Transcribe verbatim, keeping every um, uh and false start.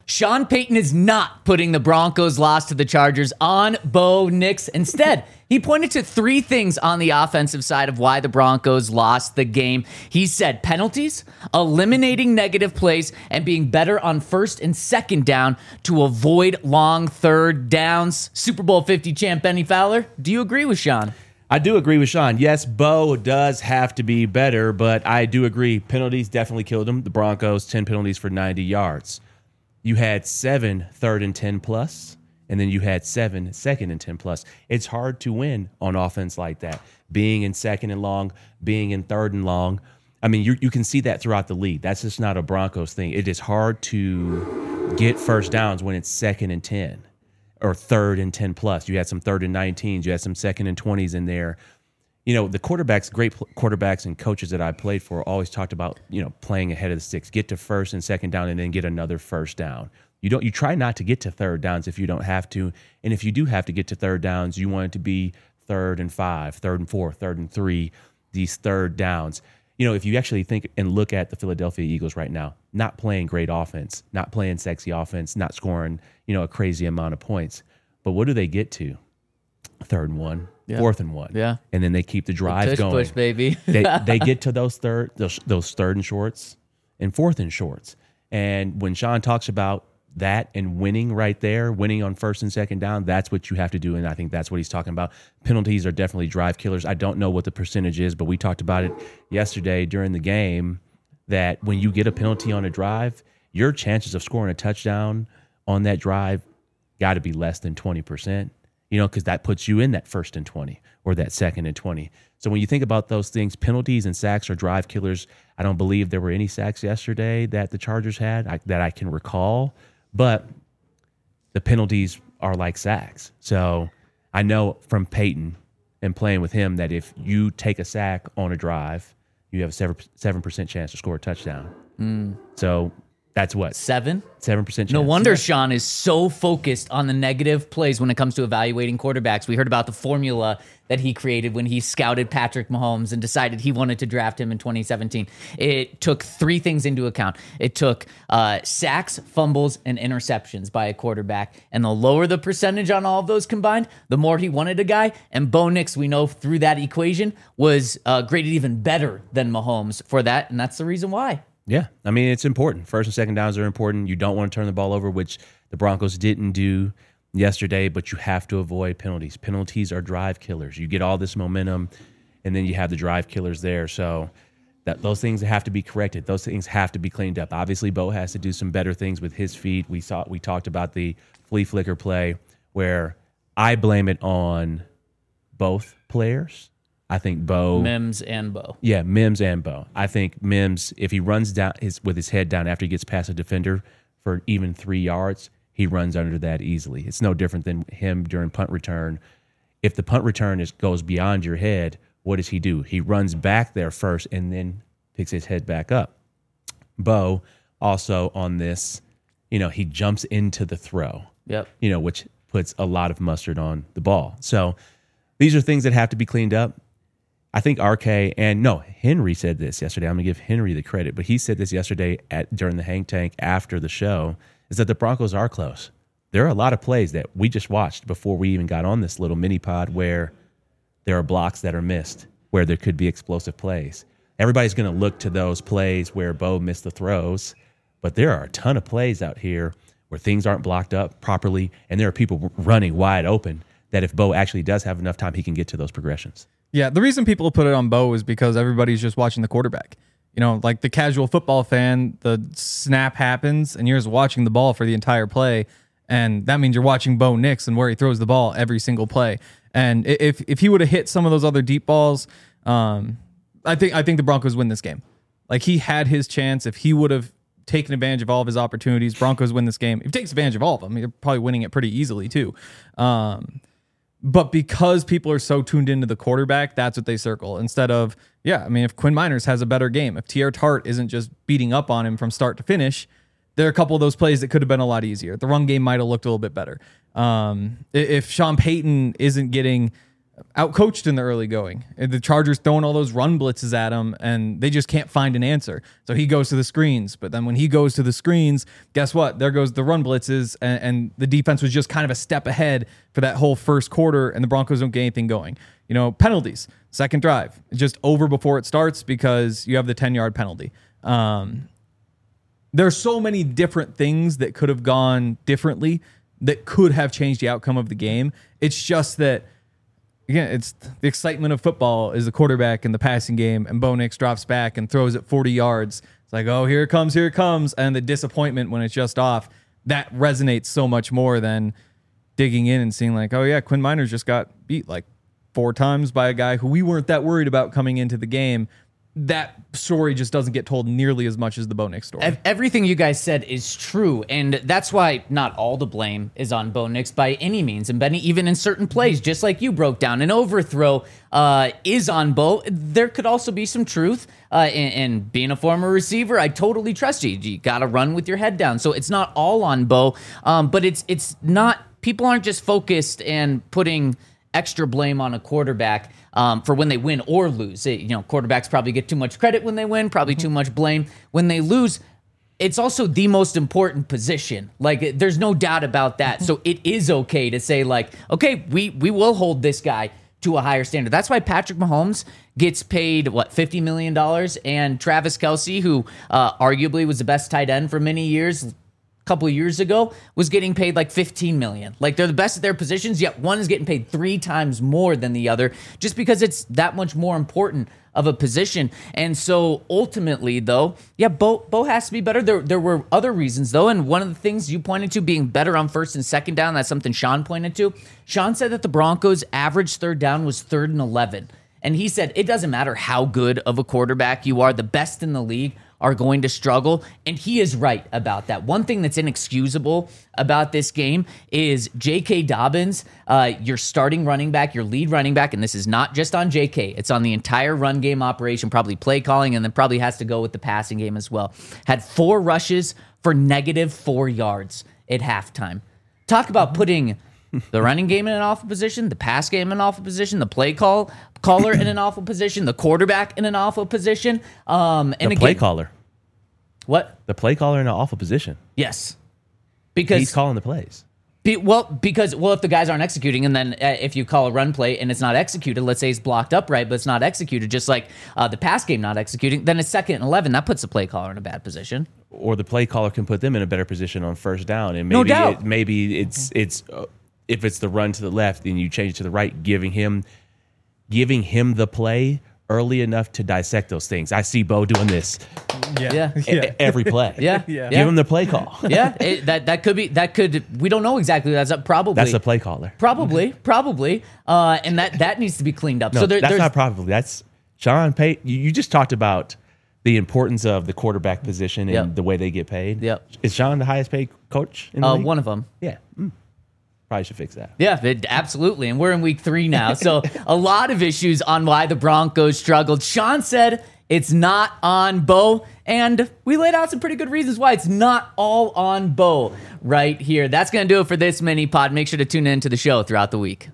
Sean Payton is not putting the Broncos' loss to the Chargers on Bo Nix. Instead, he pointed to three things on the offensive side of why the Broncos lost the game. He said penalties, eliminating negative plays, and being better on first and second down to avoid long third downs. Super Bowl fifty champ Benny Fowler, do you agree with Sean? I do agree with Sean. Yes, Bo does have to be better, but I do agree. Penalties definitely killed him. The Broncos, ten penalties for ninety yards. You had seven third and ten plus, and then you had seven second and ten plus. It's hard to win on offense like that. Being in second and long, being in third and long. I mean, you you can see that throughout the league. That's just not a Broncos thing. It is hard to get first downs when it's second and ten or third and ten plus. You had some third and nineteens. You had some second and twenties in there. You know, the quarterbacks, great quarterbacks and coaches that I played for always talked about, you know, playing ahead of the sticks, get to first and second down and then get another first down. You don't, you try not to get to third downs if you don't have to. And if you do have to get to third downs, you want it to be third and five, third and four, third and three, these third downs. You know, if you actually think and look at the Philadelphia Eagles right now, not playing great offense, not playing sexy offense, not scoring, you know, a crazy amount of points. But what do they get to? Third and one. Yeah. Fourth and one, yeah, and then they keep the drive push, going. Push, baby. they they get to those third those, those third and shorts and fourth and shorts. And when Sean talks about that and winning right there, winning on first and second down, that's what you have to do. And I think that's what he's talking about. Penalties are definitely drive killers. I don't know what the percentage is, but we talked about it yesterday during the game that when you get a penalty on a drive, your chances of scoring a touchdown on that drive got to be less than twenty percent. You know, because that puts you in that first and twenty or that second and twenty. So when you think about those things, penalties and sacks are drive killers. I don't believe there were any sacks yesterday that the Chargers had I, that I can recall, but the penalties are like sacks. So I know from Peyton and playing with him that if you take a sack on a drive, you have a seven percent chance to score a touchdown. Mm. So that's what? Seven? Seven percent chance. No wonder yeah. Sean is so focused on the negative plays when it comes to evaluating quarterbacks. We heard about the formula that he created when he scouted Patrick Mahomes and decided he wanted to draft him in twenty seventeen. It took three things into account. It took uh, sacks, fumbles, and interceptions by a quarterback. And the lower the percentage on all of those combined, the more he wanted a guy. And Bo Nix, we know through that equation, was uh, graded even better than Mahomes for that. And that's the reason why. Yeah, I mean, it's important. First and second downs are important. You don't want to turn the ball over, which the Broncos didn't do yesterday, but you have to avoid penalties. Penalties are drive killers. You get all this momentum, and then you have the drive killers there. So that those things have to be corrected. Those things have to be cleaned up. Obviously, Bo has to do some better things with his feet. We saw we talked about the flea flicker play where I blame it on both players. I think Bo Mims and Bo. Yeah, Mims and Bo. I think Mims, if he runs down his with his head down after he gets past a defender for even three yards, he runs under that easily. It's no different than him during punt return. If the punt return is goes beyond your head, what does he do? He runs back there first and then picks his head back up. Bo also on this, you know, he jumps into the throw. Yep. You know, which puts a lot of mustard on the ball. So these are things that have to be cleaned up. I think R K and no, Henry said this yesterday. I'm going to give Henry the credit, but he said this yesterday at during the hang tank after the show, is that the Broncos are close. There are a lot of plays that we just watched before we even got on this little mini pod where there are blocks that are missed, where there could be explosive plays. Everybody's going to look to those plays where Bo missed the throws, but there are a ton of plays out here where things aren't blocked up properly, and there are people running wide open that if Bo actually does have enough time, he can get to those progressions. Yeah, the reason people put it on Bo is because everybody's just watching the quarterback. You know, like the casual football fan, the snap happens and you're just watching the ball for the entire play. And that means you're watching Bo Nix and where he throws the ball every single play. And if if he would have hit some of those other deep balls, um, I think I think the Broncos win this game. Like he had his chance. If he would have taken advantage of all of his opportunities, Broncos win this game. If he takes advantage of all of them, you're probably winning it pretty easily too. Um, But because people are so tuned into the quarterback, that's what they circle. Instead of, yeah, I mean, if Quinn Miners has a better game, if T R Tart isn't just beating up on him from start to finish, there are a couple of those plays that could have been a lot easier. The run game might have looked a little bit better. Um, if Sean Payton isn't getting outcoached in the early going. And the Chargers throwing all those run blitzes at him, and they just can't find an answer. So he goes to the screens. But then when he goes to the screens, guess what? There goes the run blitzes, and, and the defense was just kind of a step ahead for that whole first quarter, and the Broncos don't get anything going. You know, penalties, second drive, just over before it starts because you have the ten-yard penalty. Um, there's so many different things that could have gone differently that could have changed the outcome of the game. It's just that, again, it's the excitement of football is the quarterback in the passing game, and Bo Nix drops back and throws it forty yards. It's like, oh, here it comes, here it comes. And the disappointment when it's just off, that resonates so much more than digging in and seeing like, oh, yeah, Quinn Miners just got beat like four times by a guy who we weren't that worried about coming into the game. That story just doesn't get told nearly as much as the Bo Nix story. Ev- Everything you guys said is true, and that's why not all the blame is on Bo Nix by any means. And Benny, even in certain plays, just like you broke down, an overthrow uh, is on Bo. There could also be some truth uh, in, in being a former receiver. I totally trust you. You got to run with your head down. So it's not all on Bo, um, but it's it's not. People aren't just focused and putting extra blame on a quarterback um, for when they win or lose. It, you know, quarterbacks probably get too much credit when they win, probably too much blame when they lose. It's also the most important position. Like, there's no doubt about that. So it is okay to say, like, okay, we we will hold this guy to a higher standard. That's why Patrick Mahomes gets paid, what, fifty million dollars, and Travis Kelce, who uh, arguably was the best tight end for many years, couple of years ago, was getting paid like fifteen million. Like, they're the best at their positions, yet one is getting paid three times more than the other just because it's that much more important of a position. And so ultimately, though, yeah, Bo, Bo has to be better. There, there were other reasons, though, and one of the things you pointed to being better on first and second down, that's something Sean pointed to. Sean said that the Broncos' average third down was third and eleven. And he said it doesn't matter how good of a quarterback you are, the best in the league are going to struggle. And he is right about that. One thing that's inexcusable about this game is J K. Dobbins, uh, your starting running back, your lead running back, and this is not just on J K, it's on the entire run game operation, probably play calling, and then probably has to go with the passing game as well. Had four rushes for negative four yards at halftime. Talk about putting the running game in an awful position, the pass game in an awful position, the play call caller in an awful position, the quarterback in an awful position. Um, and the again, play caller. What? The play caller in an awful position. Yes, because He's calling the plays. be, well, because well, if the guys aren't executing, and then uh, if you call a run play and it's not executed, let's say it's blocked up right, but it's not executed, just like uh, the pass game not executing, then it's second and eleven. That puts the play caller in a bad position. Or the play caller can put them in a better position on first down, and maybe No doubt. It, maybe it's it's uh, if it's the run to the left and you change it to the right, giving him giving him the play early enough to dissect those things. I see Bo doing this Yeah. e- every play. Yeah, Yeah. Give him the play call. yeah, it, that that could be that could we don't know exactly. That's a, probably That's the play caller. probably probably, uh, and that that needs to be cleaned up. No, so there, that's there's not probably. That's Sean Payton. You, you just talked about the importance of the quarterback position and Yep. the way they get paid. Yep. Is Sean the highest paid coach in the uh, league? one of them. Yeah. Mm. Probably should fix that. Yeah, it, absolutely. And we're in week three now. So a lot of issues on why the Broncos struggled. Sean said it's not on Bo, and we laid out some pretty good reasons why it's not all on Bo right here. That's going to do it for this mini pod. Make sure to tune in to the show throughout the week.